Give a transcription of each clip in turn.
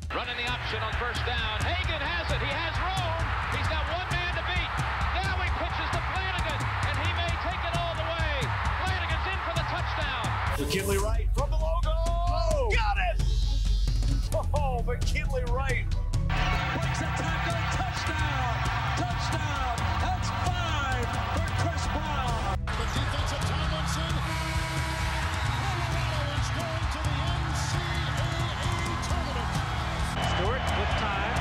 Running the option on first down. Hagan has it. He has room. He's got one man to beat. Now he pitches to Flanagan, and he may take it all the way. Flanagan's in for the touchdown. McKinley Wright from the logo. Oh, got it! Oh, McKinley Wright. Breaks a tackle. Touchdown. Touchdown. That's 5 for Chris Brown. The defensive Tomlinson. Colorado is going to the NCAA tournament. Stewart with time.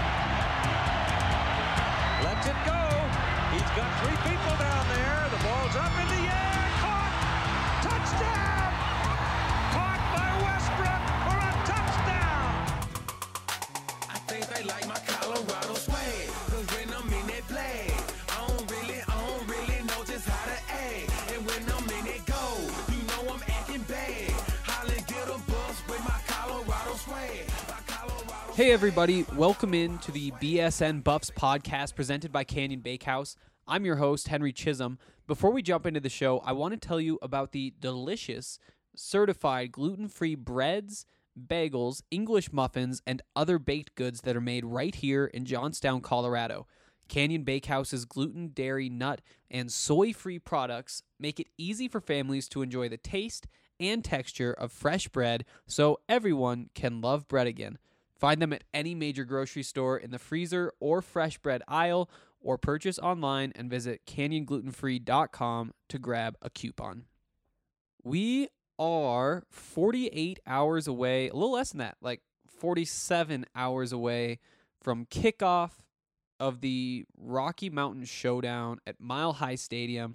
Lets it go. He's got 3 people down there. The ball's up in the air. Caught. Touchdown. Caught by Westbrook for a touchdown. I think they like my Colorado swag. Cause when I'm in that play, I don't really know just how to act. And when I'm in it go, you know I'm acting bad. Holland get a bus with my Colorado swag. Hey everybody, welcome in to the BSN Buffs podcast presented by Canyon Bakehouse. I'm your host, Henry Chisholm. Before we jump into the show, I want to tell you about the delicious, certified gluten-free breads, bagels, English muffins, and other baked goods that are made right here in Johnstown, Colorado. Canyon Bakehouse's gluten, dairy, nut, and soy-free products make it easy for families to enjoy the taste and texture of fresh bread so everyone can love bread again. Find them at any major grocery store in the freezer or fresh bread aisle, or purchase online and visit canyonglutenfree.com to grab a coupon. We are 48 hours away, a little less than that, like 47 hours away from kickoff of the Rocky Mountain Showdown at Mile High Stadium.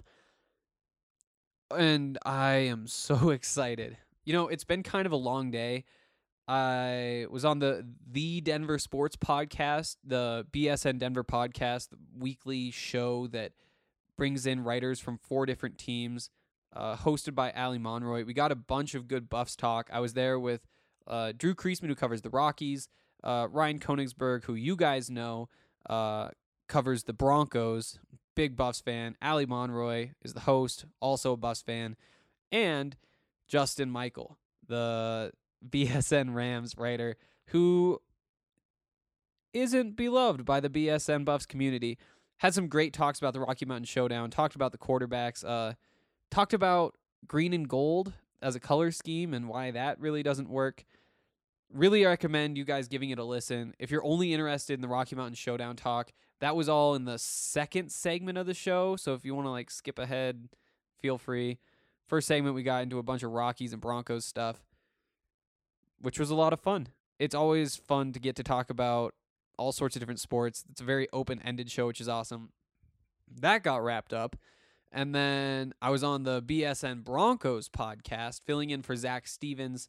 And I am so excited. You know, it's been kind of a long day. I was on the Denver Sports Podcast, the BSN Denver podcast, the weekly show that brings in writers from 4 different teams, hosted by Ali Monroy. We got a bunch of good Buffs talk. I was there with Drew Kreisman, who covers the Rockies, Ryan Konigsberg, who you guys know, covers the Broncos, big Buffs fan. Ali Monroy is the host, also a Buffs fan, and Justin Michael, the BSN Rams writer, who isn't beloved by the BSN Buffs community. Had some great talks about the Rocky Mountain Showdown, talked about the quarterbacks, talked about green and gold as a color scheme and why that really doesn't work. Really recommend you guys giving it a listen. If you're only interested in the Rocky Mountain Showdown talk, that was all in the second segment of the show, so if you want to skip ahead, feel free. First segment, we got into a bunch of Rockies and Broncos stuff, which was a lot of fun. It's always fun to get to talk about all sorts of different sports. It's a very open-ended show, which is awesome. That got wrapped up. And then I was on the BSN Broncos podcast, filling in for Zach Stevens,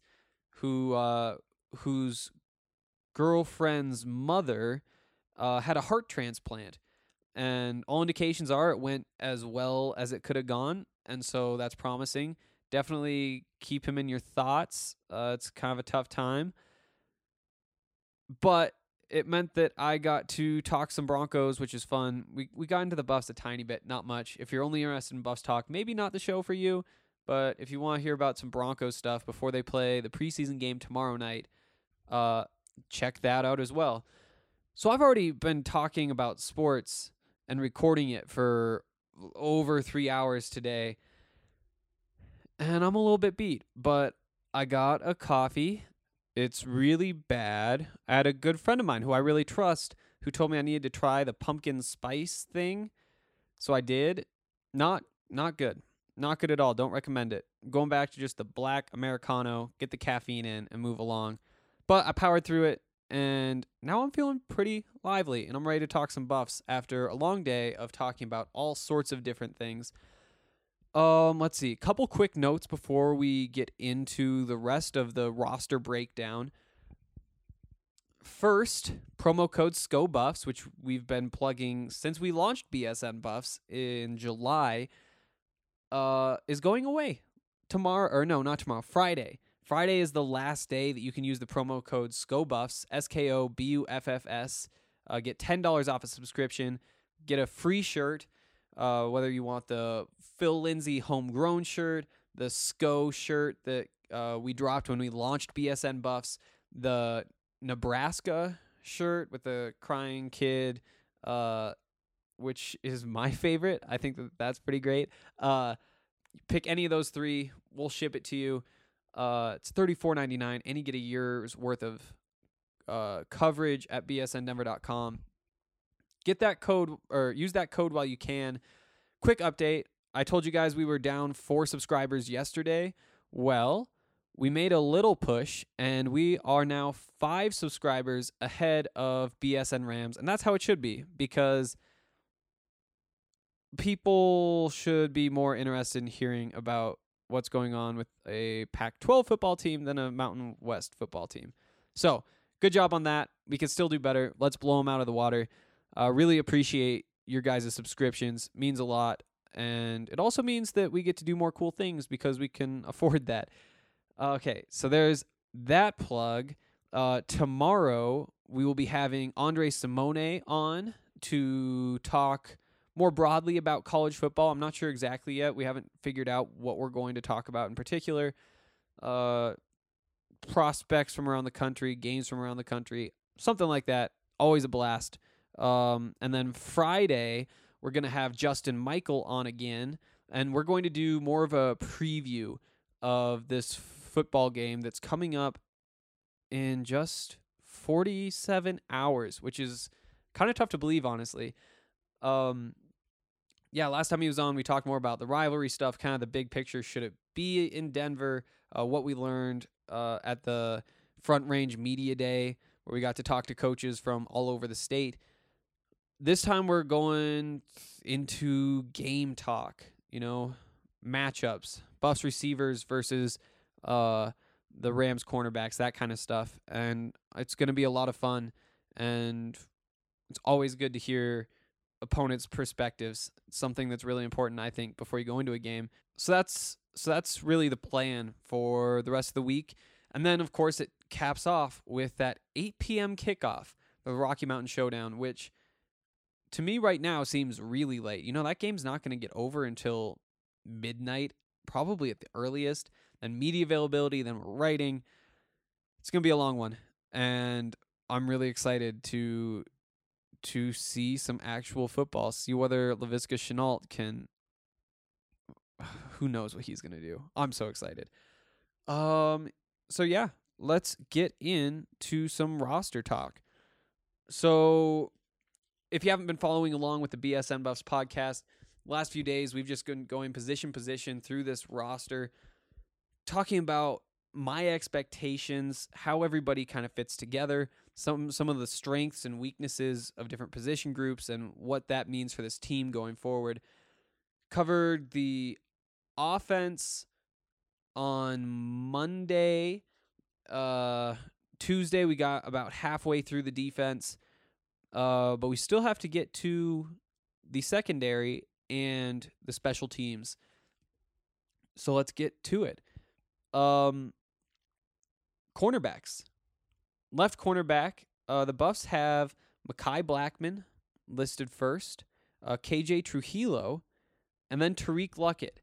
whose girlfriend's mother had a heart transplant. And all indications are it went as well as it could have gone. And so that's promising. Definitely keep him in your thoughts. It's kind of a tough time. But it meant that I got to talk some Broncos, which is fun. We got into the Buffs a tiny bit, not much. If you're only interested in Buffs talk, maybe not the show for you. But if you want to hear about some Broncos stuff before they play the preseason game tomorrow night, check that out as well. So I've already been talking about sports and recording it for over 3 hours today. And I'm a little bit beat, but I got a coffee. It's really bad. I had a good friend of mine who I really trust who told me I needed to try the pumpkin spice thing. So I did. Not good. Not good at all. Don't recommend it. Going back to just the black Americano, get the caffeine in and move along. But I powered through it, and now I'm feeling pretty lively, and I'm ready to talk some Buffs after a long day of talking about all sorts of different things. Let's see. A couple quick notes before we get into the rest of the roster breakdown. First, promo code SCOBuffs, which we've been plugging since we launched BSN Buffs in July, is going away tomorrow. Or no, not tomorrow. Friday. Friday is the last day that you can use the promo code SCOBuffs, SKOBUFFS. Get $10 off a subscription. Get a free shirt. Whether you want the Phil Lindsay homegrown shirt, the SCO shirt that we dropped when we launched BSN Buffs, the Nebraska shirt with the crying kid, which is my favorite. I think that's pretty great. Pick any of those 3. We'll ship it to you. It's $34.99, and you get a year's worth of coverage at bsndenver.com. Get that code, or use that code while you can. Quick update. I told you guys we were down 4 subscribers yesterday. Well, we made a little push, and we are now 5 subscribers ahead of BSN Rams, and that's how it should be, because people should be more interested in hearing about what's going on with a Pac-12 football team than a Mountain West football team. So, good job on that. We can still do better. Let's blow them out of the water. Really appreciate your guys' subscriptions. Means a lot. And it also means that we get to do more cool things because we can afford that. Okay, so there's that plug. Tomorrow, we will be having Andre Simone on to talk more broadly about college football. I'm not sure exactly yet. We haven't figured out what we're going to talk about in particular. Prospects from around the country, games from around the country, something like that. Always a blast. And then Friday, we're going to have Justin Michael on again, and we're going to do more of a preview of this football game that's coming up in just 47 hours, which is kind of tough to believe, honestly. Last time he was on, we talked more about the rivalry stuff, kind of the big picture. Should it be in Denver? What we learned at the Front Range Media Day, where we got to talk to coaches from all over the state. This time we're going into game talk, matchups, Buffs receivers versus the Rams cornerbacks, that kind of stuff. And it's going to be a lot of fun, and it's always good to hear opponents' perspectives. It's something that's really important, I think, before you go into a game. So that's really the plan for the rest of the week. And then, of course, it caps off with that 8 p.m. kickoff, the Rocky Mountain Showdown, which to me right now seems really late. That game's not going to get over until midnight, probably at the earliest. Then media availability, then we're writing. It's going to be a long one. And I'm really excited to see some actual football, see whether Laviska Shenault can, who knows what he's going to do. I'm so excited. So yeah, let's get into some roster talk. So if you haven't been following along with the BSN Buffs podcast, last few days we've just been going position through this roster, talking about my expectations, how everybody kind of fits together, some of the strengths and weaknesses of different position groups, and what that means for this team going forward. Covered the offense on Monday. Tuesday we got about halfway through the defense, but we still have to get to the secondary and the special teams. So let's get to it. Cornerbacks. Left cornerback, the Buffs have Mekhi Blackman listed first, KJ Trujillo, and then Tariq Luckett.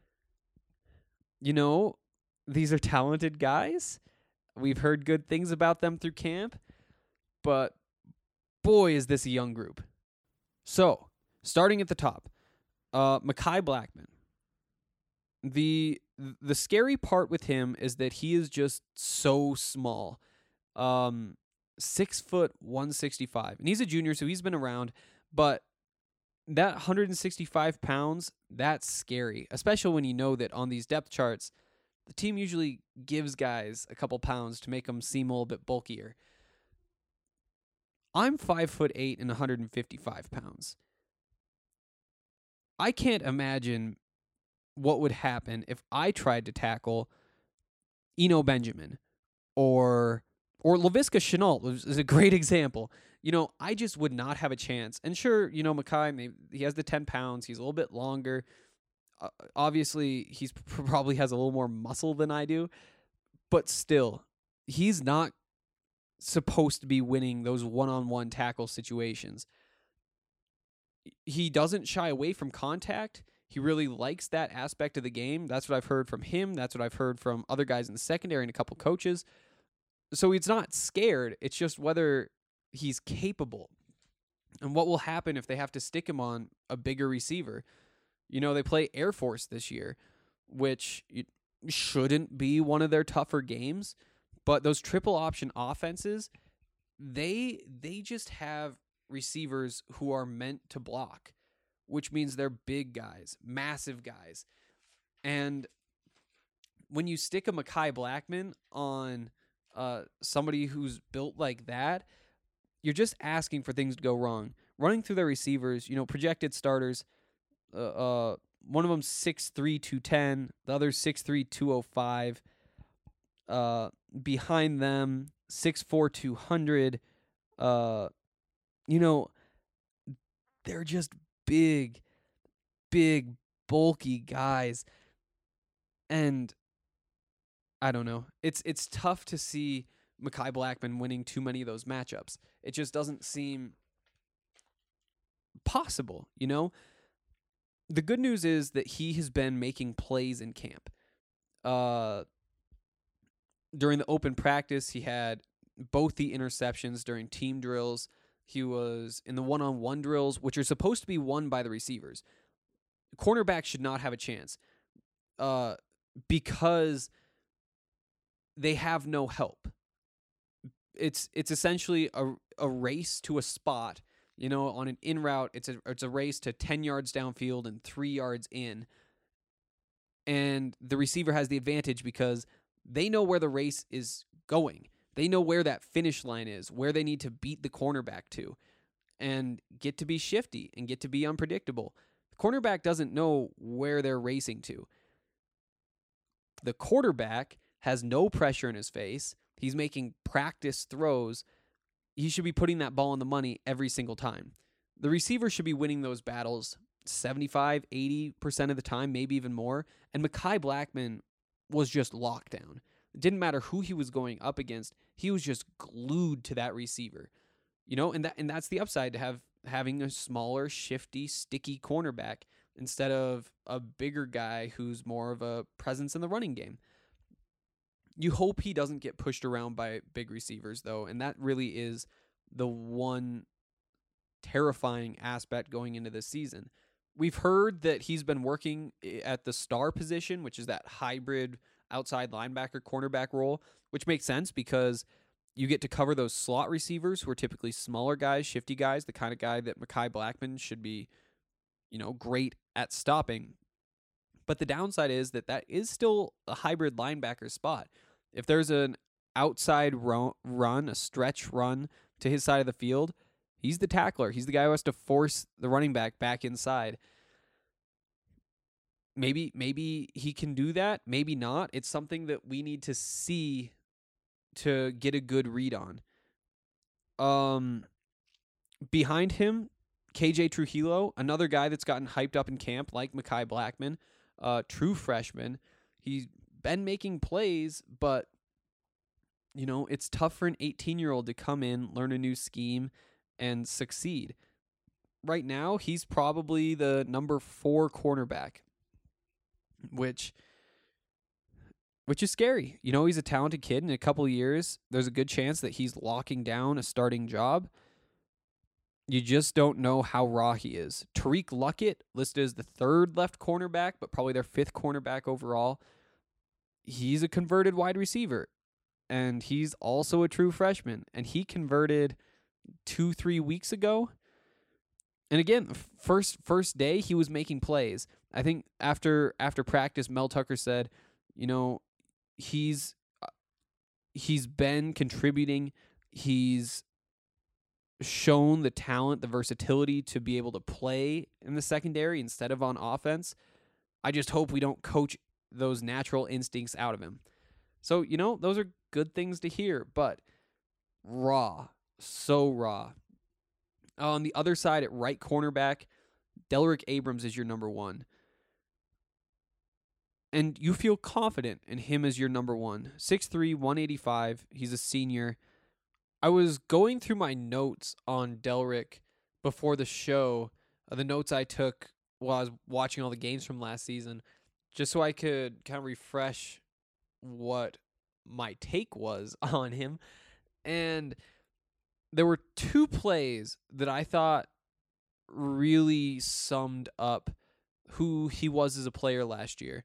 These are talented guys. We've heard good things about them through camp, but boy, is this a young group. So, starting at the top, Mekhi Blackman. The scary part with him is that he is just so small. 6 foot 165, and he's a junior, so he's been around, but that 165 pounds, that's scary, especially when you know that on these depth charts, the team usually gives guys a couple pounds to make them seem a little bit bulkier. I'm 5'8" and 155 pounds. I can't imagine what would happen if I tried to tackle Eno Benjamin or Laviska Shenault is a great example. I just would not have a chance. And sure, Mekhi, he has the 10 pounds. He's a little bit longer. Obviously, he's probably has a little more muscle than I do. But still, he's not supposed to be winning those one-on-one tackle situations. He doesn't shy away from contact. He really likes that aspect of the game. That's what I've heard from him. That's what I've heard from other guys in the secondary and a couple coaches. So he's not scared. It's just whether he's capable. And what will happen if they have to stick him on a bigger receiver? They play Air Force this year, which shouldn't be one of their tougher games. But those triple option offenses, they just have receivers who are meant to block, which means they're big guys, massive guys. And when you stick a Mekhi Blackmon on somebody who's built like that, you're just asking for things to go wrong. Running through their receivers, projected starters, one of them 6'3", 210, the other 6'3", 205. Behind them, 6'4", 200. They're just big, bulky guys. And I don't know. It's tough to see Mekhi Blackmon winning too many of those matchups. It just doesn't seem possible, The good news is that he has been making plays in camp. During the open practice, he had both the interceptions during team drills. He was in the one-on-one drills, which are supposed to be won by the receivers. Cornerbacks should not have a chance because they have no help. It's essentially a race to a spot. On an in route, it's a race to 10 yards downfield and 3 yards in. And the receiver has the advantage because they know where the race is going. They know where that finish line is, where they need to beat the cornerback to, and get to be shifty and get to be unpredictable. The cornerback doesn't know where they're racing to. The quarterback has no pressure in his face. He's making practice throws. He should be putting that ball on the money every single time. The receiver should be winning those battles 75, 80% of the time, maybe even more. And Mekhi Blackmon was just locked down. It didn't matter who he was going up against. He was just glued to that receiver. And that's the upside to having a smaller, shifty, sticky cornerback instead of a bigger guy who's more of a presence in the running game. You hope he doesn't get pushed around by big receivers, though, and that really is the one terrifying aspect going into this season. We've heard that he's been working at the star position, which is that hybrid outside linebacker cornerback role, which makes sense because you get to cover those slot receivers who are typically smaller guys, shifty guys, the kind of guy that Mekhi Blackmon should be, great at stopping. But the downside is that is still a hybrid linebacker spot. If there's an outside run, a stretch run to his side of the field, he's the tackler. He's the guy who has to force the running back inside. Maybe he can do that. Maybe not. It's something that we need to see to get a good read on. Behind him, KJ Trujillo, another guy that's gotten hyped up in camp like Mekhi Blackmon, true freshman. He's been making plays, but it's tough for an 18-year-old to come in, learn a new scheme, and succeed. Right now, he's probably the number 4 cornerback, which is scary. He's a talented kid. In a couple of years, there's a good chance that he's locking down a starting job. You just don't know how raw he is. Tariq Luckett, listed as the 3rd left cornerback, but probably their 5th cornerback overall. He's a converted wide receiver, and he's also a true freshman, and he converted 2-3 weeks ago. And again, first day, he was making plays. I think after practice, Mel Tucker said, he's been contributing. He's shown the talent, the versatility to be able to play in the secondary instead of on offense. I just hope we don't coach those natural instincts out of him. So, those are good things to hear, but raw, so raw. On the other side at right cornerback, Delrick Abrams is your number 1. And you feel confident in him as your number 1. 6'3", 185. He's a senior. I was going through my notes on Delrick before the show, the notes I took while I was watching all the games from last season, just so I could kind of refresh what my take was on him. And there were 2 plays that I thought really summed up who he was as a player last year.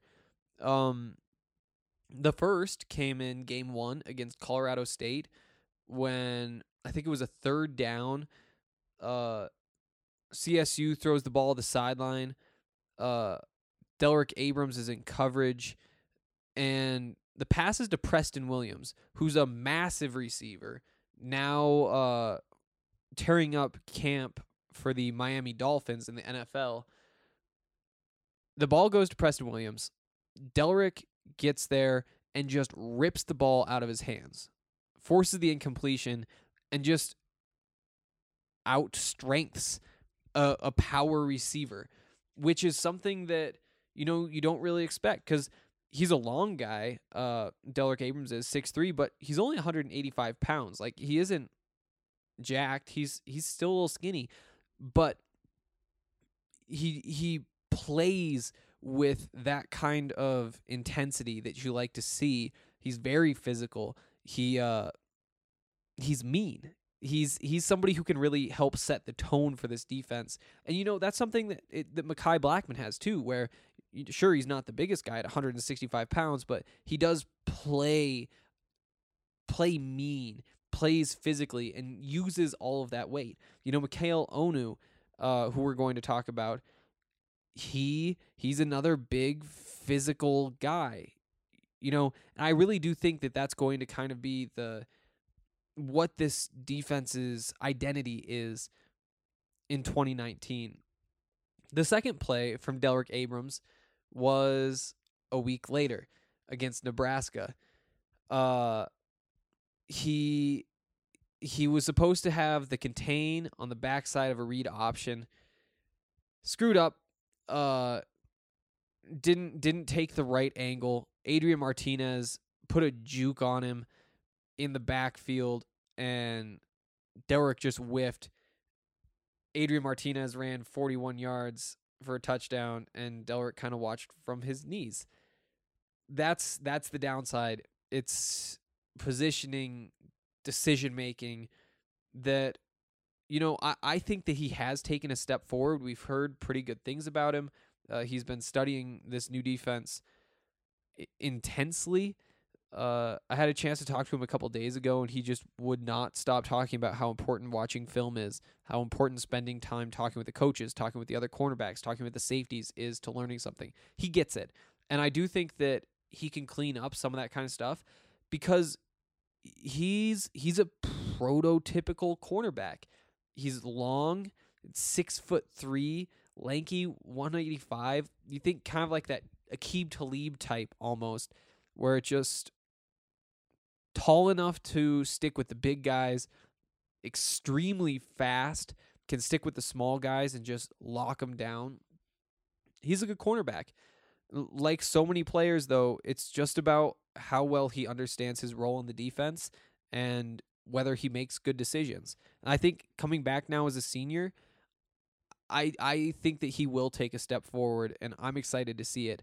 The first came in game 1 against Colorado State when I think it was a 3rd down. CSU throws the ball to the sideline. Delrick Abrams is in coverage, and the pass is to Preston Williams, who's a massive receiver, now tearing up camp for the Miami Dolphins in the NFL. The ball goes to Preston Williams. Delrick gets there and just rips the ball out of his hands, forces the incompletion, and just outstrengths a power receiver, which is something that, you don't really expect because he's a long guy. Delrick Abrams is 6'3", but he's only 185 pounds. Like, he isn't jacked. He's still a little skinny, but he plays with that kind of intensity that you like to see. He's very physical. He's mean. He's somebody who can really help set the tone for this defense. And, that's something that Mekhi Blackmon has too, where sure, he's not the biggest guy at 165 pounds, but he does play mean, plays physically, and uses all of that weight. Mikhail Onu, who we're going to talk about, he's another big physical guy. And I really do think that that's going to kind of be what this defense's identity is in 2019. The second play from Delrick Abrams was a week later against Nebraska. He was supposed to have the contain on the backside of a read option. Screwed up. Didn't take the right angle. Adrian Martinez put a juke on him in the backfield, and Delrick just whiffed. Adrian Martinez ran 41 yards for a touchdown, and Delrick kind of watched from his knees. That's the downside. It's positioning, decision-making that, I think that he has taken a step forward. We've heard pretty good things about him. He's been studying this new defense intensely. I had a chance to talk to him a couple days ago, and he just would not stop talking about how important watching film is, how important spending time talking with the coaches, talking with the other cornerbacks, talking with the safeties is to learning something. He gets it. And I do think that he can clean up some of that kind of stuff because he's a prototypical cornerback. He's long, 6'3", lanky, 185. You think kind of like that Aqib Talib type almost, where it just tall enough to stick with the big guys, extremely fast, can stick with the small guys and just lock them down. He's a good cornerback. Like so many players, though, it's just about how well he understands his role in the defense and whether he makes good decisions. And I think coming back now as a senior, I think that he will take a step forward, and I'm excited to see it.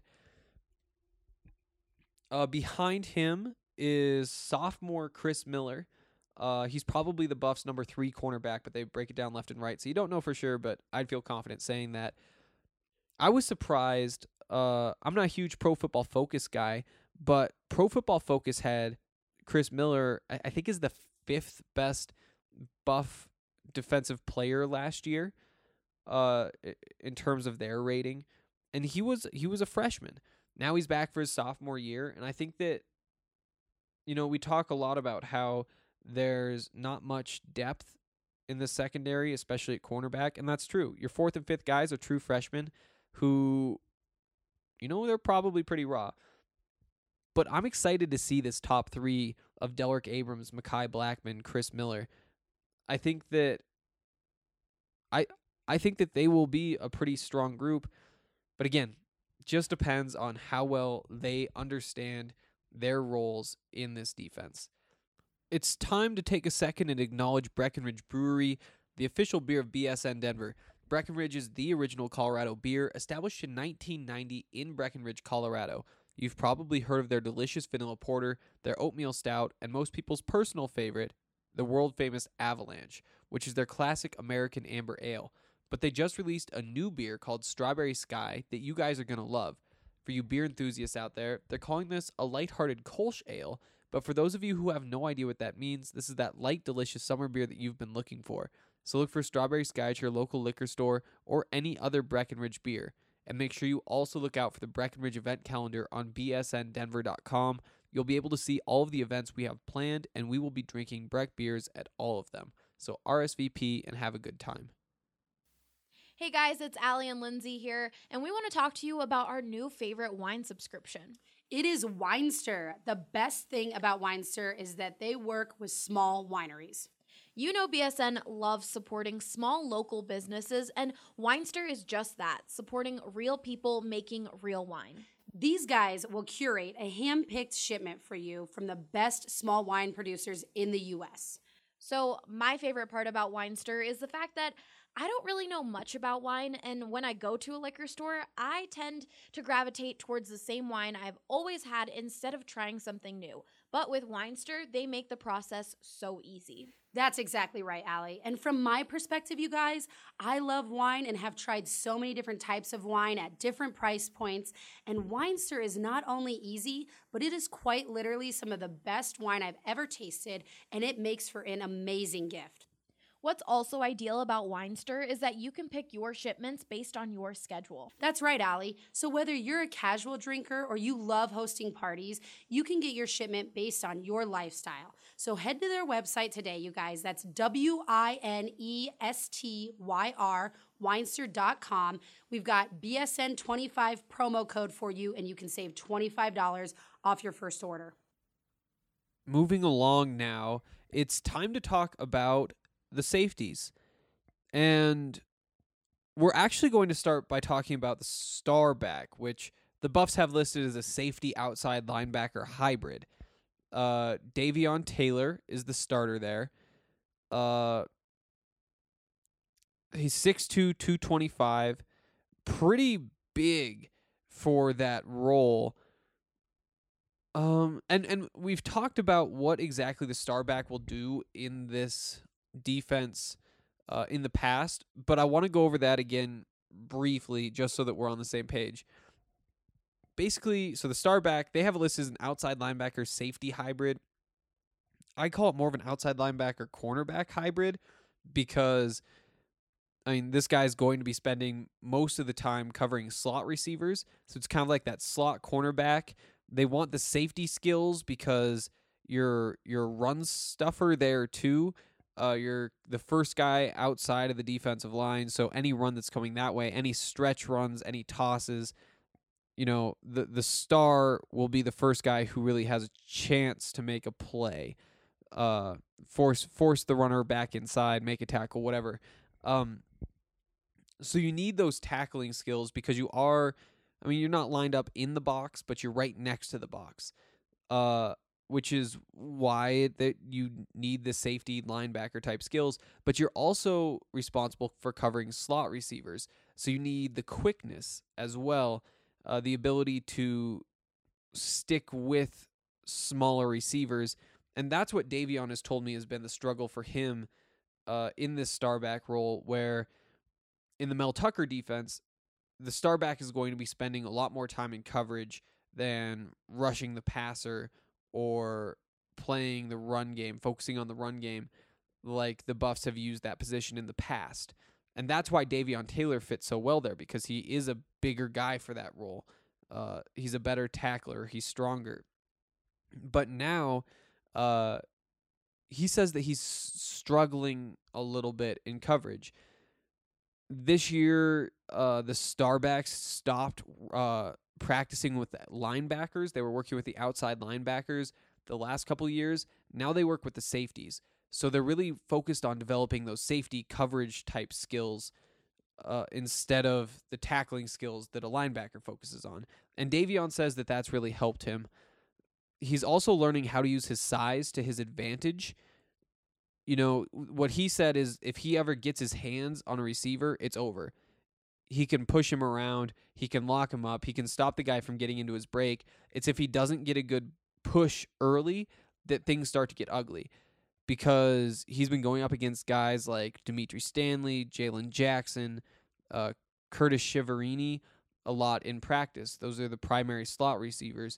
Behind him is sophomore Chris Miller. He's probably the Buffs' number 3 cornerback, but they break it down left and right, so you don't know for sure, but I'd feel confident saying that. I was surprised. I'm not a huge Pro Football Focus guy, but Pro Football Focus had Chris Miller, I think, is the 5th best Buff defensive player last year in terms of their rating, and he was a freshman. Now he's back for his sophomore year, and I think that, we talk a lot about how there's not much depth in the secondary, especially at cornerback, and that's true. Your 4th and 5th guys are true freshmen who, they're probably pretty raw. But I'm excited to see this top 3 of Delrick Abrams, Mekhi Blackmon, Chris Miller. I think that they will be a pretty strong group, but again, just depends on how well they understand their roles in this defense. It's time to take a second and acknowledge Breckenridge Brewery, the official beer of BSN Denver. Breckenridge is the original Colorado beer, established in 1990 in Breckenridge, Colorado. You've probably heard of their delicious vanilla porter, their oatmeal stout, and most people's personal favorite, the world-famous Avalanche, which is their classic American amber ale. But they just released a new beer called Strawberry Sky that you guys are going to love. For you beer enthusiasts out there, they're calling this a lighthearted Kolsch ale, but for those of you who have no idea what that means, this is that light, delicious summer beer that you've been looking for. So look for Strawberry Sky at your local liquor store or any other Breckenridge beer. And make sure you also look out for the Breckenridge event calendar on bsndenver.com. You'll be able to see all of the events we have planned, and we will be drinking Breck beers at all of them. So RSVP and have a good time. Hey guys, it's Allie and Lindsay here, and we want to talk to you about our new favorite wine subscription. It is Winester. The best thing about Winester is that they work with small wineries. You know BSN loves supporting small local businesses, and Winester is just that, supporting real people making real wine. These guys will curate a hand-picked shipment for you from the best small wine producers in the U.S. So my favorite part about Winester is the fact that I don't really know much about wine, and when I go to a liquor store, I tend to gravitate towards the same wine I've always had instead of trying something new. But with Winester, they make the process so easy. That's exactly right, Allie. And from my perspective, you guys, I love wine and have tried so many different types of wine at different price points. And Winester is not only easy, but it is quite literally some of the best wine I've ever tasted, and it makes for an amazing gift. What's also ideal about Winester is that you can pick your shipments based on your schedule. That's right, Allie. So whether you're a casual drinker or you love hosting parties, you can get your shipment based on your lifestyle. So head to their website today, you guys. That's WINESTYR, Winester.com. We've got BSN25 promo code for you, and you can save $25 off your first order. Moving along now, it's time to talk about the safeties. And we're actually going to start by talking about the Starback, which the Buffs have listed as a safety outside linebacker hybrid. Davion Taylor is the starter there. He's 6'2", 225, pretty big for that role. And we've talked about what exactly the Starback will do in this defense in the past, but I want to go over that again briefly just so that we're on the same page. Basically, so the Starback, they have it listed as an outside linebacker safety hybrid. I call it more of an outside linebacker cornerback hybrid because, I mean, this guy's going to be spending most of the time covering slot receivers, so it's kind of like that slot cornerback. They want the safety skills because you're run stuffer there too. You're the first guy outside of the defensive line, so any run that's coming that way, any stretch runs, any tosses, you know, the star will be the first guy who really has a chance to make a play, force the runner back inside, make a tackle, whatever. So you need those tackling skills because you're not lined up in the box, but you're right next to the box. Which is why that you need the safety linebacker type skills, but you're also responsible for covering slot receivers. So you need the quickness as well, the ability to stick with smaller receivers. And that's what Davion has told me has been the struggle for him in this Starback role, where in the Mel Tucker defense, the Starback is going to be spending a lot more time in coverage than rushing the passer or playing the run game, focusing on the run game, like the Buffs have used that position in the past. And that's why Davion Taylor fits so well there, because he is a bigger guy for that role. He's a better tackler. He's stronger. But now he says that he's struggling a little bit in coverage. This year, the Starbacks stopped practicing with linebackers. They were working with the outside linebackers the last couple of years. Now they work with the safeties. So they're really focused on developing those safety coverage type skills instead of the tackling skills that a linebacker focuses on. And Davion says that that's really helped him. He's also learning how to use his size to his advantage. You know, what he said is if he ever gets his hands on a receiver, it's over. he can push him around, he can lock him up, he can stop the guy from getting into his break. It's if he doesn't get a good push early that things start to get ugly, because he's been going up against guys like Dimitri Stanley, Jalen Jackson, Curtis Shiverini a lot in practice. Those are the primary slot receivers.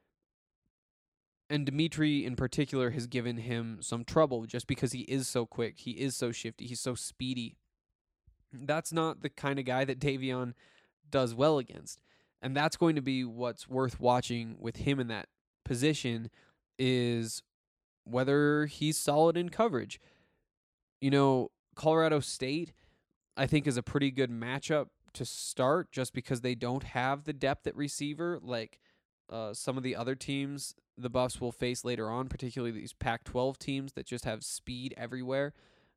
And Dimitri in particular has given him some trouble just because he is so quick, he is so shifty, he's so speedy. That's not the kind of guy that Davion does well against. And that's going to be what's worth watching with him in that position, is whether he's solid in coverage. You know, Colorado State, I think, is a pretty good matchup to start just because they don't have the depth at receiver like some of the other teams the Buffs will face later on, particularly these Pac-12 teams that just have speed everywhere.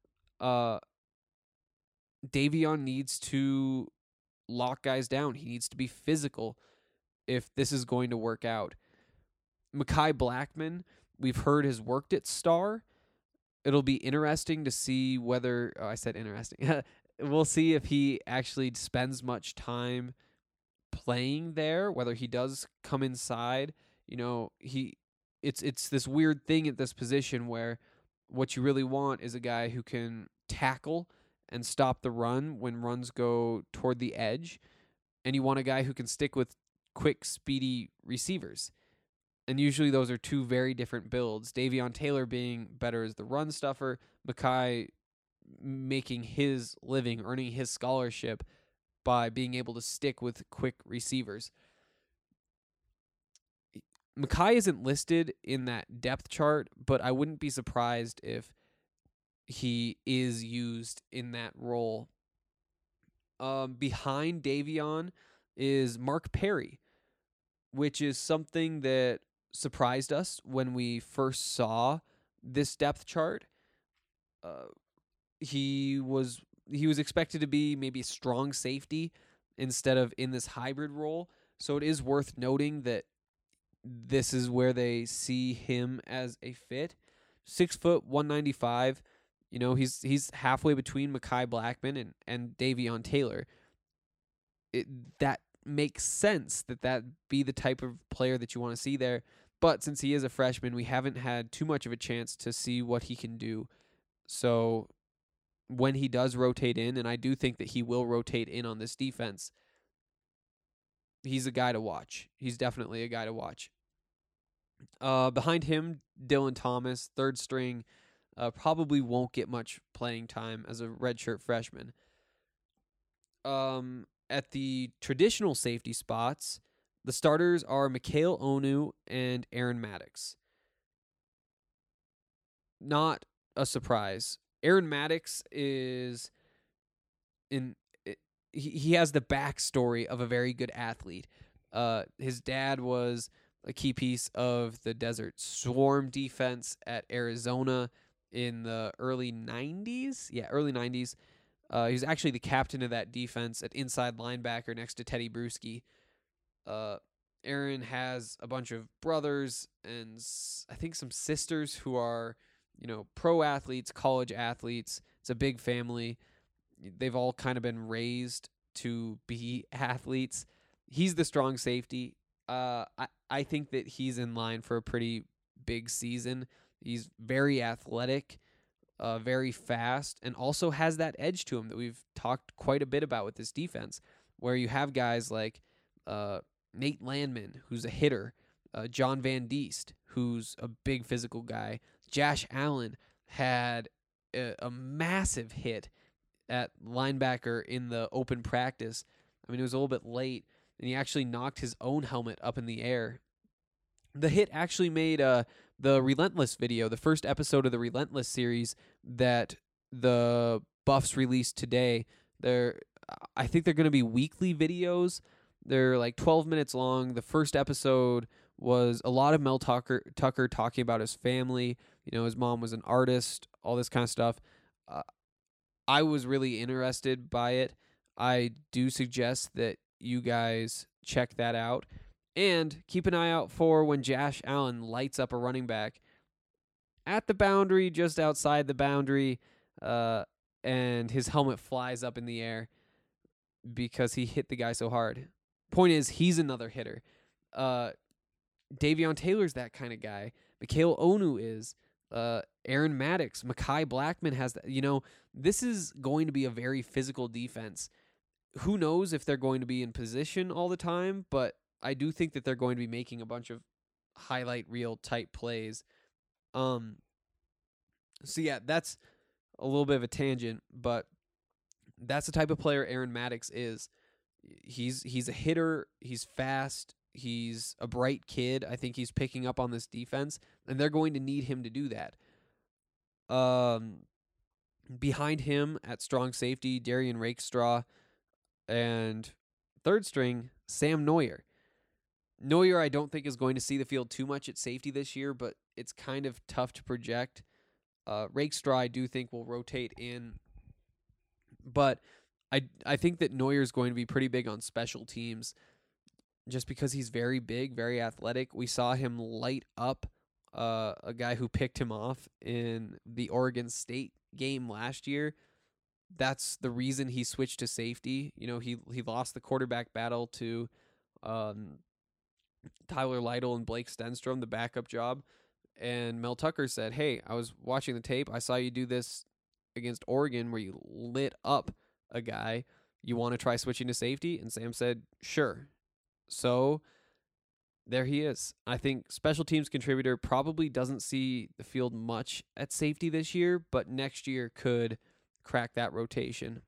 Davion needs to lock guys down. He needs to be physical if this is going to work out. Mekhi Blackman, we've heard, has worked at Star. It'll be interesting to see whether... Oh, I said interesting. We'll see if he actually spends much time playing there, whether he does come inside. You know, it's this weird thing at this position where what you really want is a guy who can tackle and stop the run when runs go toward the edge, and you want a guy who can stick with quick, speedy receivers. And usually those are two very different builds. Davion Taylor being better as the run stuffer, Mekhi making his living, earning his scholarship by being able to stick with quick receivers. Mekhi isn't listed in that depth chart, but I wouldn't be surprised if he is used in that role. Behind Davion is Mark Perry, which is something that surprised us when we first saw this depth chart. He was expected to be maybe a strong safety instead of in this hybrid role. So it is worth noting that this is where they see him as a fit. 6 foot, 195. You know, he's halfway between Mekhi Blackman and Davion Taylor. That makes sense that be the type of player that you want to see there. But since he is a freshman, we haven't had too much of a chance to see what he can do. So when he does rotate in, and I do think that he will rotate in on this defense, he's a guy to watch. He's definitely a guy to watch. Behind him, Dylan Thomas, third string, probably won't get much playing time as a redshirt freshman. At the traditional safety spots, the starters are Mikhail Onu and Aaron Maddox. Not a surprise. Aaron Maddox is he has the backstory of a very good athlete. His dad was a key piece of the Desert Swarm defense at Arizona in the early 90s. Yeah, early 90s. He was actually the captain of that defense at inside linebacker next to Teddy Bruschi. Aaron has a bunch of brothers and I think some sisters who are, pro athletes, college athletes. It's a big family. They've all kind of been raised to be athletes. He's the strong safety. I think that he's in line for a pretty big season. He's very athletic, very fast, and also has that edge to him that we've talked quite a bit about with this defense, where you have guys like Nate Landman, who's a hitter, John Van Diest, who's a big physical guy. Josh Allen had a massive hit at linebacker in the open practice. I mean, it was a little bit late, and he actually knocked his own helmet up in the air. The hit actually made the Relentless video, the first episode of the Relentless series that the Buffs released today. I think they're going to be weekly videos. They're like 12 minutes long. The first episode was a lot of Mel Tucker talking about his family. His mom was an artist, all this kind of stuff. I was really interested by it. I do suggest that you guys check that out. And keep an eye out for when Josh Allen lights up a running back at the boundary, just outside the boundary, and his helmet flies up in the air. because he hit the guy so hard. Point is, he's another hitter. Davion Taylor's that kind of guy. Mikhail Onu is. Aaron Maddox, Mekhi Blackman has that. This is going to be a very physical defense. Who knows if they're going to be in position all the time, but I do think that they're going to be making a bunch of highlight reel type plays. So yeah, that's a little bit of a tangent, but that's the type of player Aaron Maddox is. He's a hitter, he's fast, he's a bright kid. I think he's picking up on this defense, and they're going to need him to do that. Behind him at strong safety, Darian Rakestraw, and third string, Sam Neuer. Neuer, I don't think, is going to see the field too much at safety this year, but it's kind of tough to project. Rakestraw, I do think, will rotate in, but I think that Neuer is going to be pretty big on special teams just because he's very big, very athletic. We saw him light up a guy who picked him off in the Oregon State game last year. That's the reason he switched to safety. He lost the quarterback battle to Tyler Lytle and Blake Stenstrom, the backup job. And Mel Tucker said, "Hey, I was watching the tape. I saw you do this against Oregon where you lit up a guy. You want to try switching to safety?" And Sam said, "Sure." So there he is. I think special teams contributor probably doesn't see the field much at safety this year, but next year could crack that rotation.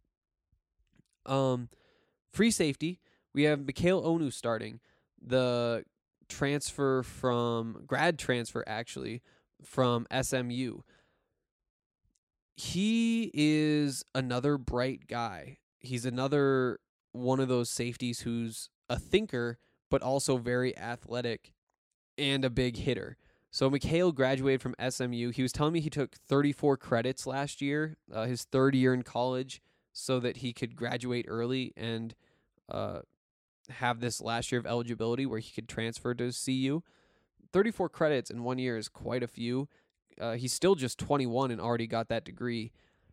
Free safety, we have Mikhail Onu starting. The grad transfer actually, from SMU. He is another bright guy. He's another one of those safeties who's a thinker, but also very athletic and a big hitter. So Mikhail graduated from SMU. He was telling me he took 34 credits last year, his third year in college, so that he could graduate early and have this last year of eligibility where he could transfer to CU. 34 credits in 1 year is quite a few. He's still just 21 and already got that degree.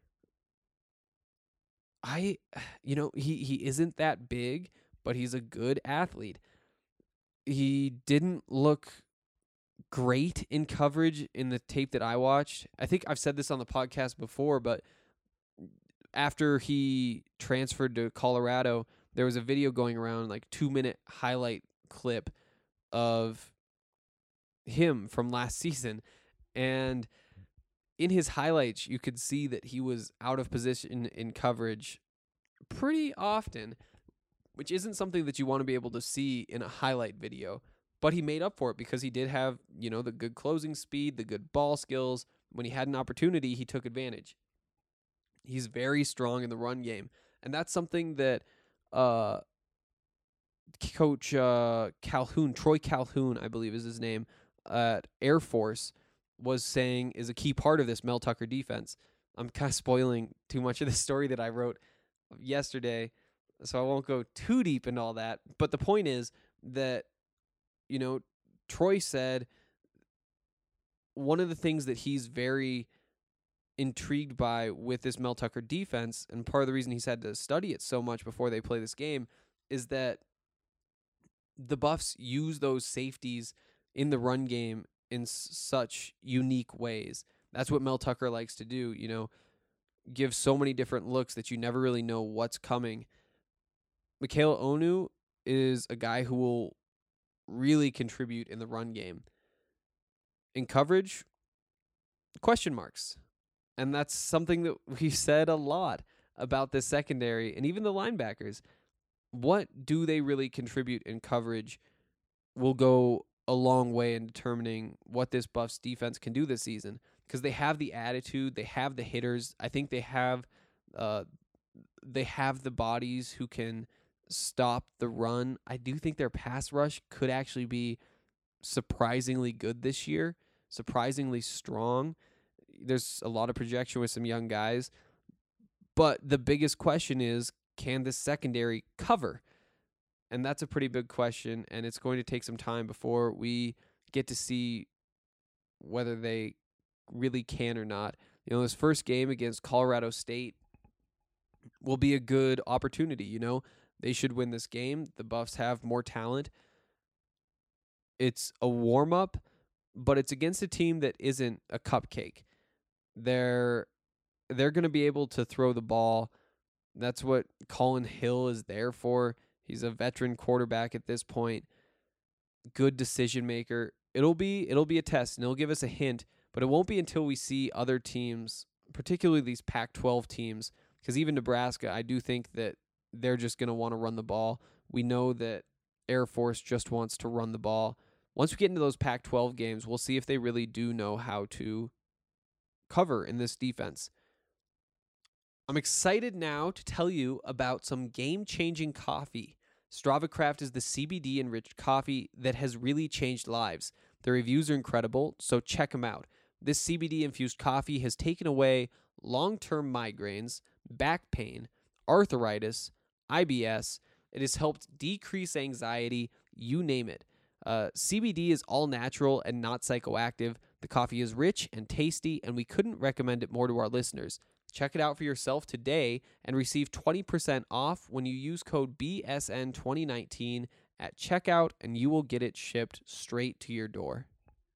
He isn't that big, but he's a good athlete. He didn't look great in coverage in the tape that I watched. I think I've said this on the podcast before, but after he transferred to Colorado, there was a video going around, like 2-minute highlight clip of him from last season. And in his highlights, you could see that he was out of position in coverage pretty often, which isn't something that you want to be able to see in a highlight video. But he made up for it because he did have, the good closing speed, the good ball skills. When he had an opportunity, he took advantage. He's very strong in the run game. And that's something that Coach Calhoun, Troy Calhoun, I believe is his name, at Air Force, was saying is a key part of this Mel Tucker defense. I'm kind of spoiling too much of the story that I wrote yesterday, so I won't go too deep into all that. But the point is that, Troy said one of the things that he's very intrigued by with this Mel Tucker defense, and part of the reason he's had to study it so much before they play this game, is that the Buffs use those safeties in the run game in such unique ways. That's what Mel Tucker likes to do, give so many different looks that you never really know what's coming. Mikhail Onu is a guy who will really contribute in the run game. In coverage, question marks. And that's something that we've said a lot about this secondary and even the linebackers. What do they really contribute in coverage will go a long way in determining what this Buffs defense can do this season, because they have the attitude, they have the hitters. I think they have the bodies who can stop the run. I do think their pass rush could actually be surprisingly good this year, surprisingly strong. There's a lot of projection with some young guys, but the biggest question is, can this secondary cover? And that's a pretty big question, and it's going to take some time before we get to see whether they really can or not. This first game against Colorado State will be a good opportunity. They should win this game. The Buffs have more talent. It's a warm-up, but it's against a team that isn't a cupcake. They're going to be able to throw the ball. That's what Colin Hill is there for. He's a veteran quarterback at this point. Good decision maker. It'll be a test, and it'll give us a hint, but it won't be until we see other teams, particularly these Pac-12 teams, because even Nebraska, I do think that they're just going to want to run the ball. We know that Air Force just wants to run the ball. Once we get into those Pac-12 games, we'll see if they really do know how to cover in this defense. I'm excited now to tell you about some game-changing coffee. Strava Craft is the CBD-enriched coffee that has really changed lives. The reviews are incredible, so check them out. This CBD-infused coffee has taken away long-term migraines, back pain, arthritis, IBS. It has helped decrease anxiety, you name it. CBD is all natural and not psychoactive. The coffee is rich and tasty, and we couldn't recommend it more to our listeners. Check it out for yourself today and receive 20% off when you use code BSN2019 at checkout, and you will get it shipped straight to your door.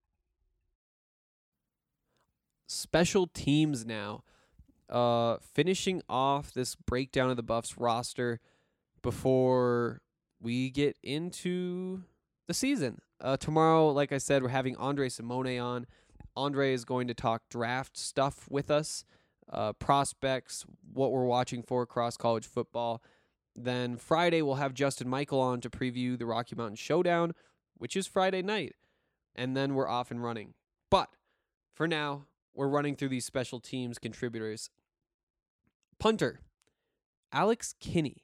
Special teams now. Finishing off this breakdown of the Buffs roster before we get into the season. Tomorrow, like I said, we're having Andre Simone on. Andre is going to talk draft stuff with us. Prospects, what we're watching for across college football. Then Friday, we'll have Justin Michael on to preview the Rocky Mountain Showdown, which is Friday night. And then we're off and running. But for now, we're running through these special teams contributors. Punter, Alex Kinney.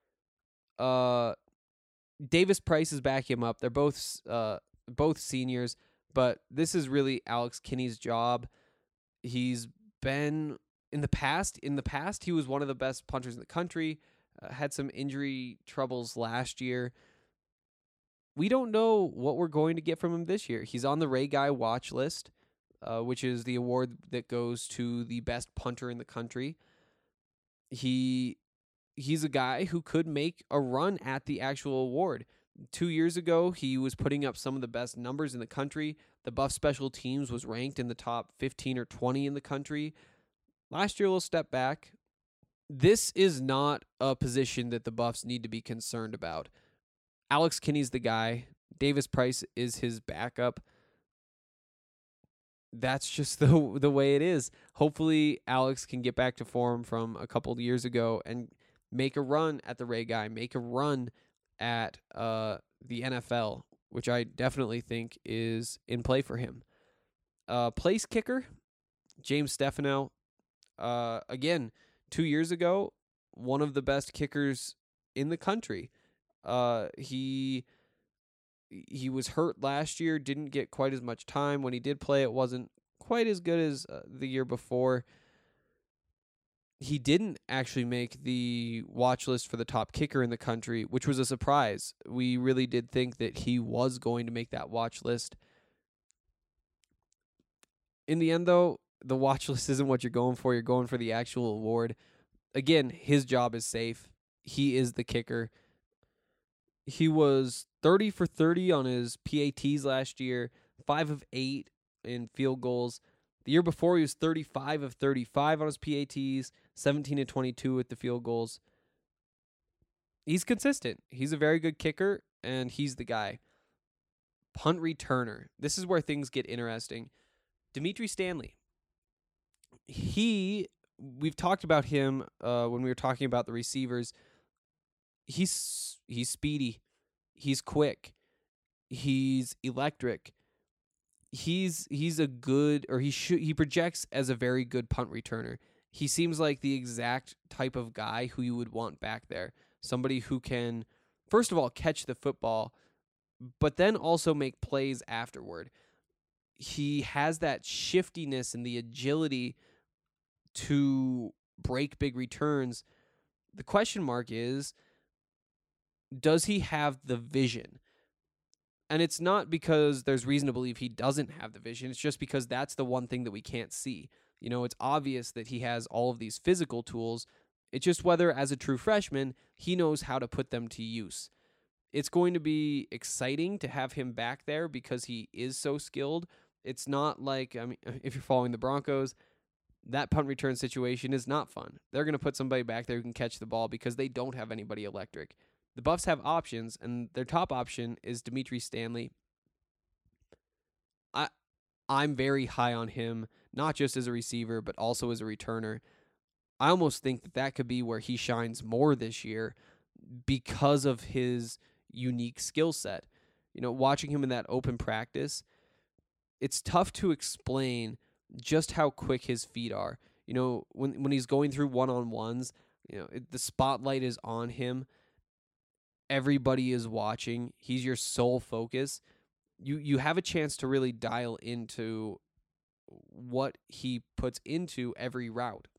Davis Price is backing him up. They're both seniors, but this is really Alex Kinney's job. He's been in the past, he was one of the best punters in the country, had some injury troubles last year. We don't know what we're going to get from him this year. He's on the Ray Guy watch list, which is the award that goes to the best punter in the country. He's a guy who could make a run at the actual award. 2 years ago, he was putting up some of the best numbers in the country. The Buff special teams was ranked in the top 15 or 20 in the country. Last year, a little step back. This is not a position that the Buffs need to be concerned about. Alex Kinney's the guy. Davis Price is his backup. That's just the way it is. Hopefully, Alex can get back to form from a couple of years ago and make a run at the Ray Guy, make a run at the NFL, which I definitely think is in play for him. Place kicker, James Stefano. Again, 2 years ago, one of the best kickers in the country. He was hurt last year, didn't get quite as much time. When he did play, it wasn't quite as good as the year before. He didn't actually make the watch list for the top kicker in the country, which was a surprise. We really did think that he was going to make that watch list. In the end, though, the watch list isn't what you're going for. You're going for the actual award. Again, his job is safe. He is the kicker. He was 30 for 30 on his PATs last year, 5 of 8 in field goals. The year before, he was 35 of 35 on his PATs, 17 of 22 with the field goals. He's consistent. He's a very good kicker, and he's the guy. Punt returner. This is where things get interesting. Dimitri Stanley. We've talked about him when we were talking about the receivers. He's speedy. He's quick. He's electric. He's a good, or he projects as a very good punt returner. He seems like the exact type of guy who you would want back there. Somebody who can, first of all, catch the football, but then also make plays afterward. He has that shiftiness and the agility to break big returns. The question mark is, does he have the vision? And it's not because there's reason to believe he doesn't have the vision. It's just because that's the one thing that we can't see. It's obvious that he has all of these physical tools, It's just whether, as a true freshman, he knows how to put them to use. It's going to be exciting to have him back there because he is so skilled. It's not like, I mean, if you're following the Broncos, that punt return situation is not fun. They're going to put somebody back there who can catch the ball because they don't have anybody electric. The Buffs have options, and their top option is Dimitri Stanley. I'm very high on him, not just as a receiver, but also as a returner. I almost think that could be where he shines more this year because of his unique skill set. Watching him in that open practice, it's tough to explain just how quick his feet are. When he's going through one-on-ones, the spotlight is on him. Everybody is watching. He's your sole focus. You have a chance to really dial into what he puts into every route.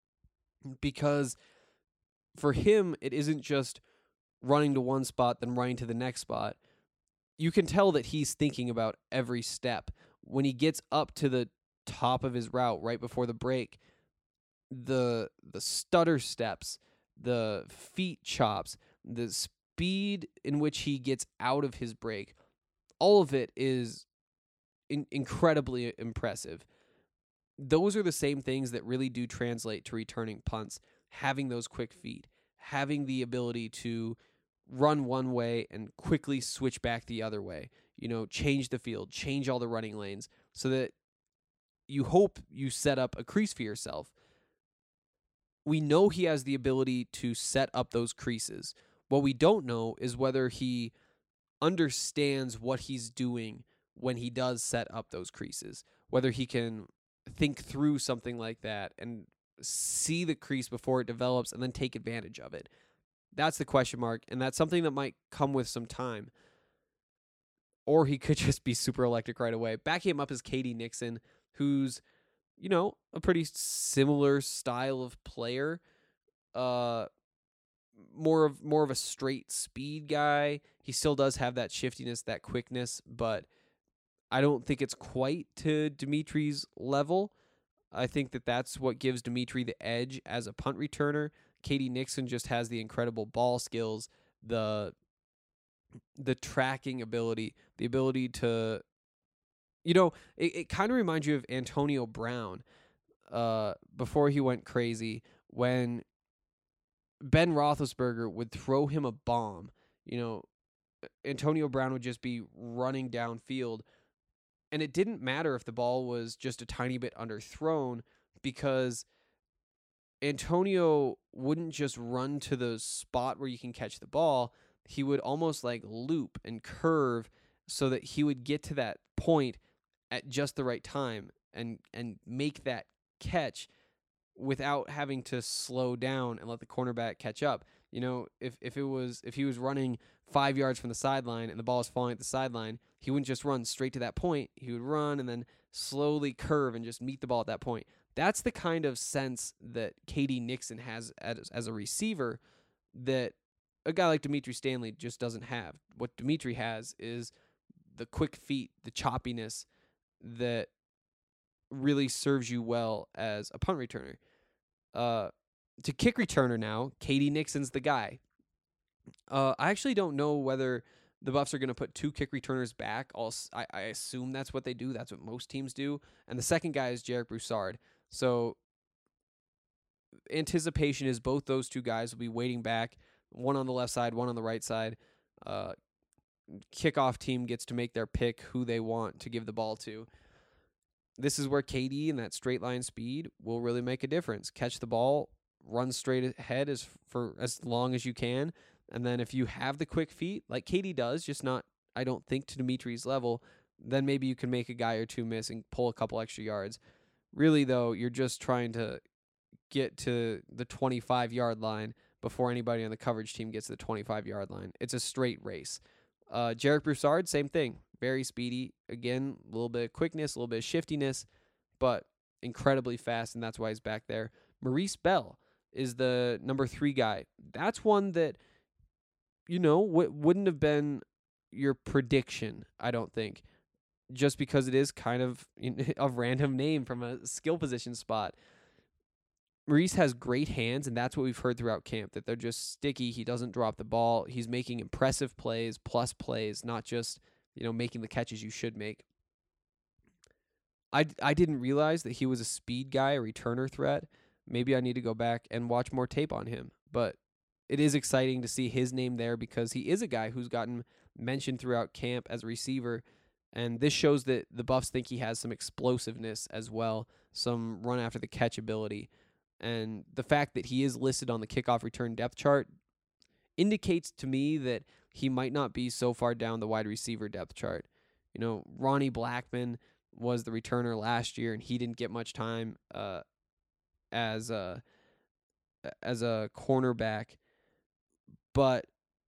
Because for him, it isn't just running to one spot, then running to the next spot. You can tell that he's thinking about every step. When he gets up to the top of his route right before the break, the stutter steps, the feet chops, the speed in which he gets out of his break, all of it is incredibly impressive. Those are the same things that really do translate to returning punts. Having those quick feet, having the ability to run one way and quickly switch back the other way, change the field, change all the running lanes so that you hope you set up a crease for yourself. We know he has the ability to set up those creases. What we don't know is whether he understands what he's doing when he does set up those creases, whether he can think through something like that and see the crease before it develops and then take advantage of it. That's the question mark, and that's something that might come with some time. Or he could just be super electric right away. Backing him up is K.D. Nixon, who's, a pretty similar style of player. More of a straight speed guy. He still does have that shiftiness, that quickness, but I don't think it's quite to Dimitri's level. I think that's what gives Dimitri the edge as a punt returner. K.D. Nixon just has the incredible ball skills, the tracking ability, the ability to, it kind of reminds you of Antonio Brown before he went crazy, when Ben Roethlisberger would throw him a bomb. Antonio Brown would just be running downfield, and it didn't matter if the ball was just a tiny bit underthrown, because Antonio wouldn't just run to the spot where you can catch the ball. He would almost like loop and curve so that he would get to that point at just the right time and make that catch without having to slow down and let the cornerback catch up. If he was running 5 yards from the sideline and the ball was falling at the sideline, he wouldn't just run straight to that point. He would run and then slowly curve and just meet the ball at that point. That's the kind of sense that K.D. Nixon has as a receiver that a guy like Dimitri Stanley just doesn't have. What Dimitri has is the quick feet, the choppiness that really serves you well as a punt returner. To kick returner now, K.D. Nixon's the guy. I actually don't know whether the Buffs are going to put two kick returners back. I assume that's what they do. That's what most teams do. And the second guy is Jarek Broussard. So anticipation is both those two guys will be waiting back, one on the left side, one on the right side. Kickoff team gets to make their pick who they want to give the ball to. This is where KD and that straight line speed will really make a difference. Catch the ball, run straight ahead for as long as you can, and then if you have the quick feet, like KD does, just not, I don't think, to Dimitri's level, then maybe you can make a guy or two miss and pull a couple extra yards. Really, though, you're just trying to get to the 25-yard line before anybody on the coverage team gets to the 25-yard line. It's a straight race. Jarek Broussard, same thing. Very speedy. Again, a little bit of quickness, a little bit of shiftiness, but incredibly fast, and that's why he's back there. Maurice Bell is the number 3 guy. That's one that, wouldn't have been your prediction, I don't think, just because it is kind of a random name from a skill position spot. Maurice has great hands, and that's what we've heard throughout camp, that they're just sticky. He doesn't drop the ball. He's making impressive plays, plus plays, not just, making the catches you should make. I didn't realize that he was a speed guy, a returner threat. Maybe I need to go back and watch more tape on him. But it is exciting to see his name there because he is a guy who's gotten mentioned throughout camp as a receiver. And this shows that the Buffs think he has some explosiveness as well, some run after the catch ability. And the fact that he is listed on the kickoff return depth chart indicates to me that he might not be so far down the wide receiver depth chart. Ronnie Blackman was the returner last year, and he didn't get much time as a cornerback. But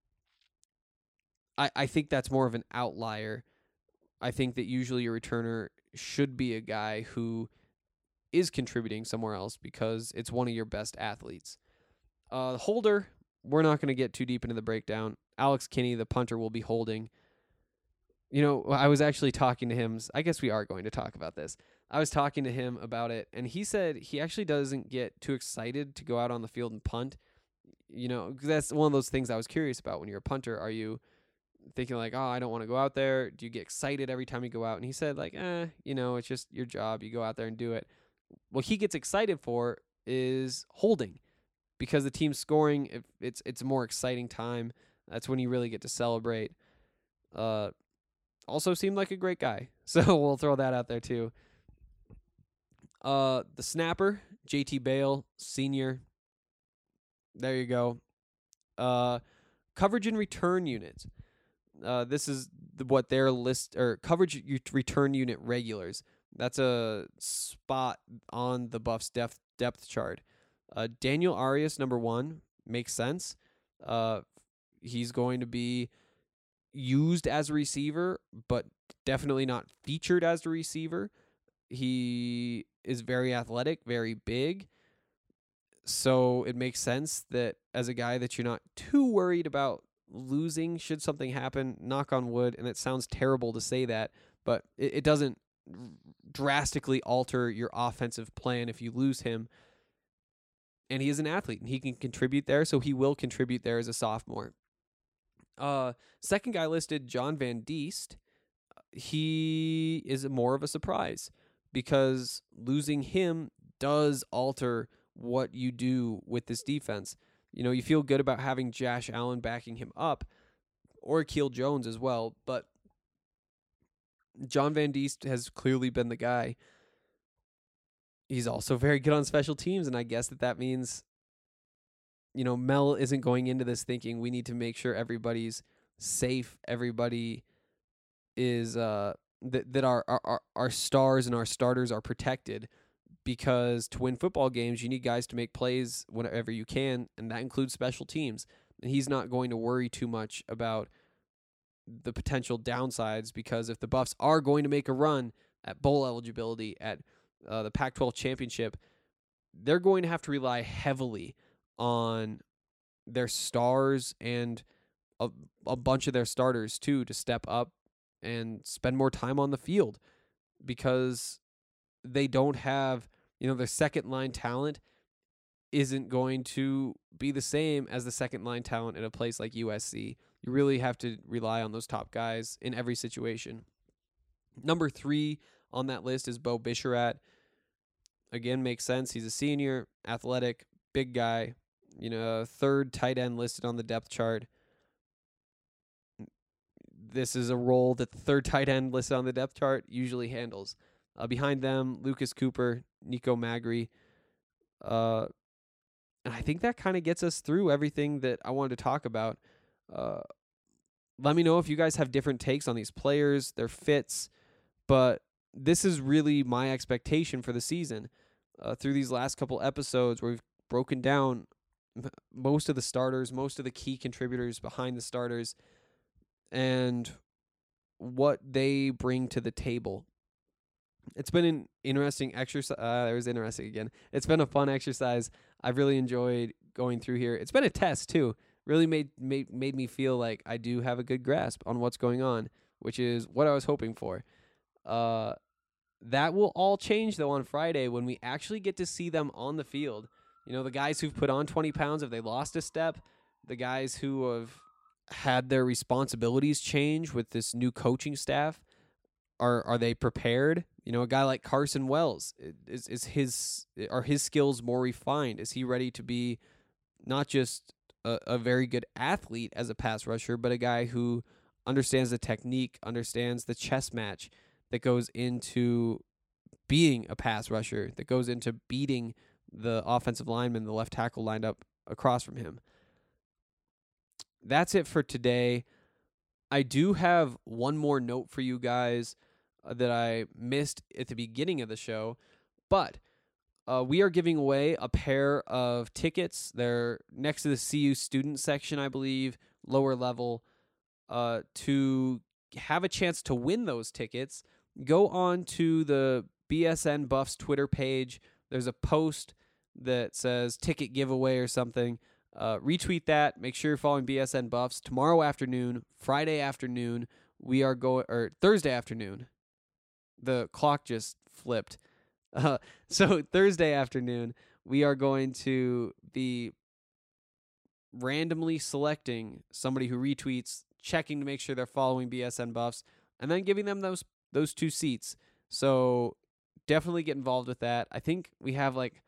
I think that's more of an outlier. I think that usually your returner should be a guy who is contributing somewhere else because it's one of your best athletes. Holder, we're not going to get too deep into the breakdown. Alex Kinney, the punter, will be holding. I was actually talking to him. I guess we are going to talk about this. I was talking to him about it, and he said he actually doesn't get too excited to go out on the field and punt. 'Cause that's one of those things I was curious about. When you're a punter, are you thinking like, oh, I don't want to go out there? Do you get excited every time you go out? And he said like, it's just your job. You go out there and do it. What he gets excited for is holding, because the team's scoring. If it's a more exciting time. That's when you really get to celebrate. Also seemed like a great guy, so we'll throw that out there too. The snapper, JT Bale, senior. There you go. Coverage and return units. This is what their list, or coverage return unit regulars. That's a spot on the Buffs depth chart. Daniel Arias, number 1, makes sense. He's going to be used as a receiver, but definitely not featured as a receiver. He is very athletic, very big. So it makes sense that as a guy that you're not too worried about losing should something happen, knock on wood, and it sounds terrible to say that, but it doesn't drastically alter your offensive plan if you lose him. And he is an athlete, and he can contribute there, so he will contribute there as a sophomore. Second guy listed, John Van Diest. He is more of a surprise because losing him does alter what you do with this defense. You feel good about having Josh Allen backing him up, or Akeel Jones as well, but John Van Diest has clearly been the guy. He's also very good on special teams, and I guess that means Mel isn't going into this thinking we need to make sure everybody's safe, everybody is that our stars and our starters are protected, because to win football games you need guys to make plays whenever you can, and that includes special teams. And he's not going to worry too much about the potential downsides, because if the Buffs are going to make a run at bowl eligibility, at the Pac-12 championship, they're going to have to rely heavily on their stars and a bunch of their starters too to step up and spend more time on the field, because they don't have, their second line talent isn't going to be the same as the second line talent in a place like USC. You really have to rely on those top guys in every situation. Number 3 on that list is Bo Bisharat. Again, makes sense. He's a senior, athletic, big guy. Third tight end listed on the depth chart. This is a role that the third tight end listed on the depth chart usually handles. Behind them, Lucas Cooper, Nico Magri. And I think that kind of gets us through everything that I wanted to talk about. Let me know if you guys have different takes on these players, their fits, but this is really my expectation for the season. Through these last couple episodes where we've broken down most of the starters, most of the key contributors behind the starters, and what they bring to the table. It's been an interesting exercise. There's interesting again. It's been a fun exercise. I've really enjoyed going through here. It's been a test too. Really made me feel like I do have a good grasp on what's going on, which is what I was hoping for. That will all change though on Friday when we actually get to see them on the field. You know, the guys who've put on 20 pounds, have they lost a step? The guys who have had their responsibilities change with this new coaching staff, are they prepared? You know, a guy like Carson Wells, are his skills more refined? Is he ready to be not just a very good athlete as a pass rusher, but a guy who understands the technique, understands the chess match that goes into being a pass rusher, that goes into beating the offensive lineman, the left tackle lined up across from him. That's it for today. I do have one more note for you guys that I missed at the beginning of the show, but we are giving away a pair of tickets. They're next to the CU student section, I believe, lower level. To have a chance to win those tickets, go on to the BSN Buffs Twitter page. There's a post that says ticket giveaway or something. Retweet that. Make sure you're following BSN Buffs. Tomorrow afternoon, Friday afternoon, we are going, or Thursday afternoon. The clock just flipped. So Thursday afternoon, we are going to be randomly selecting somebody who retweets, checking to make sure they're following BSN Buffs, and then giving them those 2 seats. So definitely get involved with that. I think we have like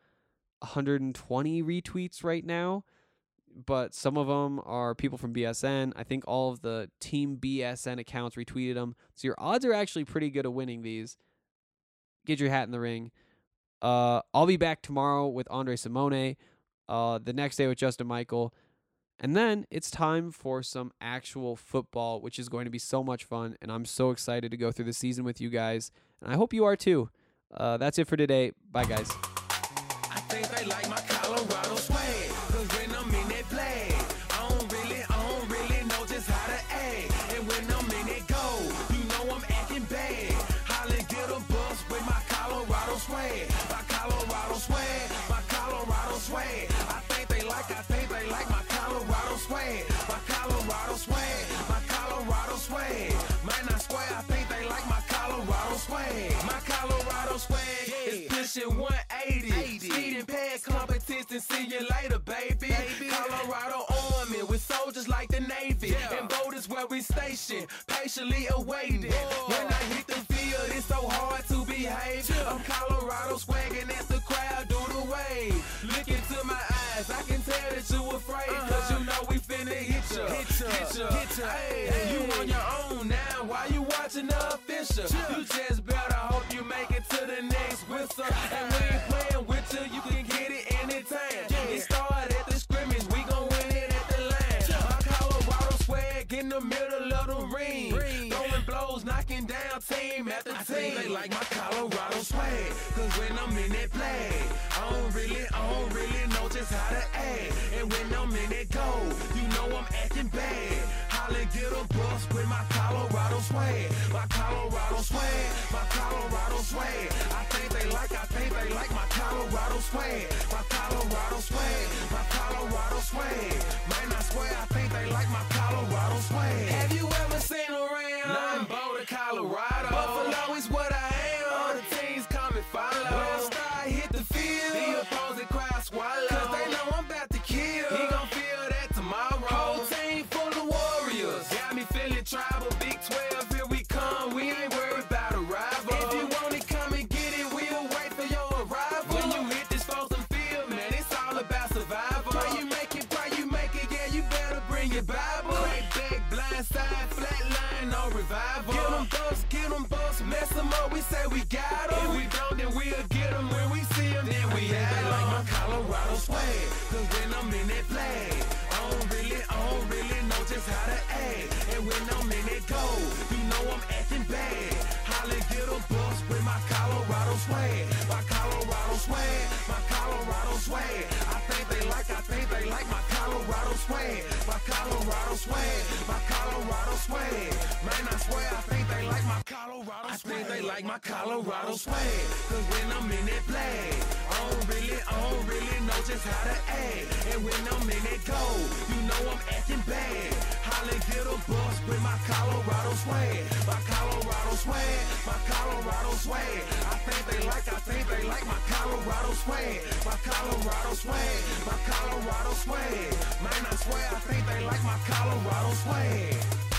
120 retweets right now, but some of them are people from BSN. I think all of the Team BSN accounts retweeted them. So your odds are actually pretty good of winning these. Get your hat in the ring. I'll be back tomorrow with Andre Simone, the next day with Justin Michael, and then it's time for some actual football, which is going to be so much fun, and I'm so excited to go through the season with you guys, and I hope you are too. That's it for today. Bye, guys. I think they like my Colorado swag, 'cause when I'm in that flag, I don't really know just how to act. And when I'm in that goal, you know I'm acting bad. Hollin' get a bus with my Colorado swag. My Colorado swag, my Colorado swag. I think they like my Colorado swag. My Colorado swag, my Colorado swag. Man, I swear I think they like my Colorado swag. My Colorado swag is pushing 180. Speeding past competition, see you later, baby. Colorado Army with soldiers like the Navy. And boat is where we station, patiently awaiting. When I hit the field, it's so hard to behave. I'm Colorado swagging as the crowd do the wave. Look into my eyes, I can tell that you afraid. 'Cause you know we finna hit ya. Hey, you on your own now, why you watching the official? You just better hope you make it to the next whistle. And we ain't playing with you, you can get it anytime. It started at the scrimmage, we gon' win it at the line. My Colorado swag in the middle of the ring. Throwing blows, knocking down team after team. I think they like my Colorado swag, 'cause when I'm in that flag, I don't really know just how to act. And when I'm in that goal, you know I'm acting bad. Holla, get a bus with my Colorado swag. My Colorado swag, my Colorado swag. I think they like my Colorado swag. My Colorado swag, my Colorado swag. Man, I swear I think they like my Colorado swag. Have you ever seen around? Nothing but Colorado. Buffalo is what I am. All the teams come and follow. When I start hit the field, the opposing crowd swallow. 'Cause they know I'm about to kill. He gon' feel that tomorrow. Whole team full of warriors. Got me feeling tribal. Big 12, here we come. We ain't worried about a rival. If you want it, come and get it. We'll wait for your arrival. When you hit this frozen field, man, it's all about survival. Pray you make it, yeah, you better bring your Bible. Crack back, blind side, flat line, no revival. Get them busts, mess them up, we say we got them. If we don't, then we'll get them. When we see them, then we have them. Like my Colorado swag, 'cause when I'm in that flag, I don't really know just how to act. And when I'm in that goal, you know I'm acting bad. Holla, get a bus with my Colorado swag. My Colorado swag, my Colorado swag. I think they like my Colorado swag. My Colorado swag, my Colorado swag. Man, I swear I think they like my Colorado swag. like my Colorado swag. Cause when I'm in that play, I don't really know just how to act. And when I'm in that goal, you know I'm acting bad. Holly get a bus with my Colorado swag. My Colorado swag, my Colorado swag. I think they like my Colorado swag. My Colorado swag, my Colorado swag. Man, I swear I think they like my Colorado swag.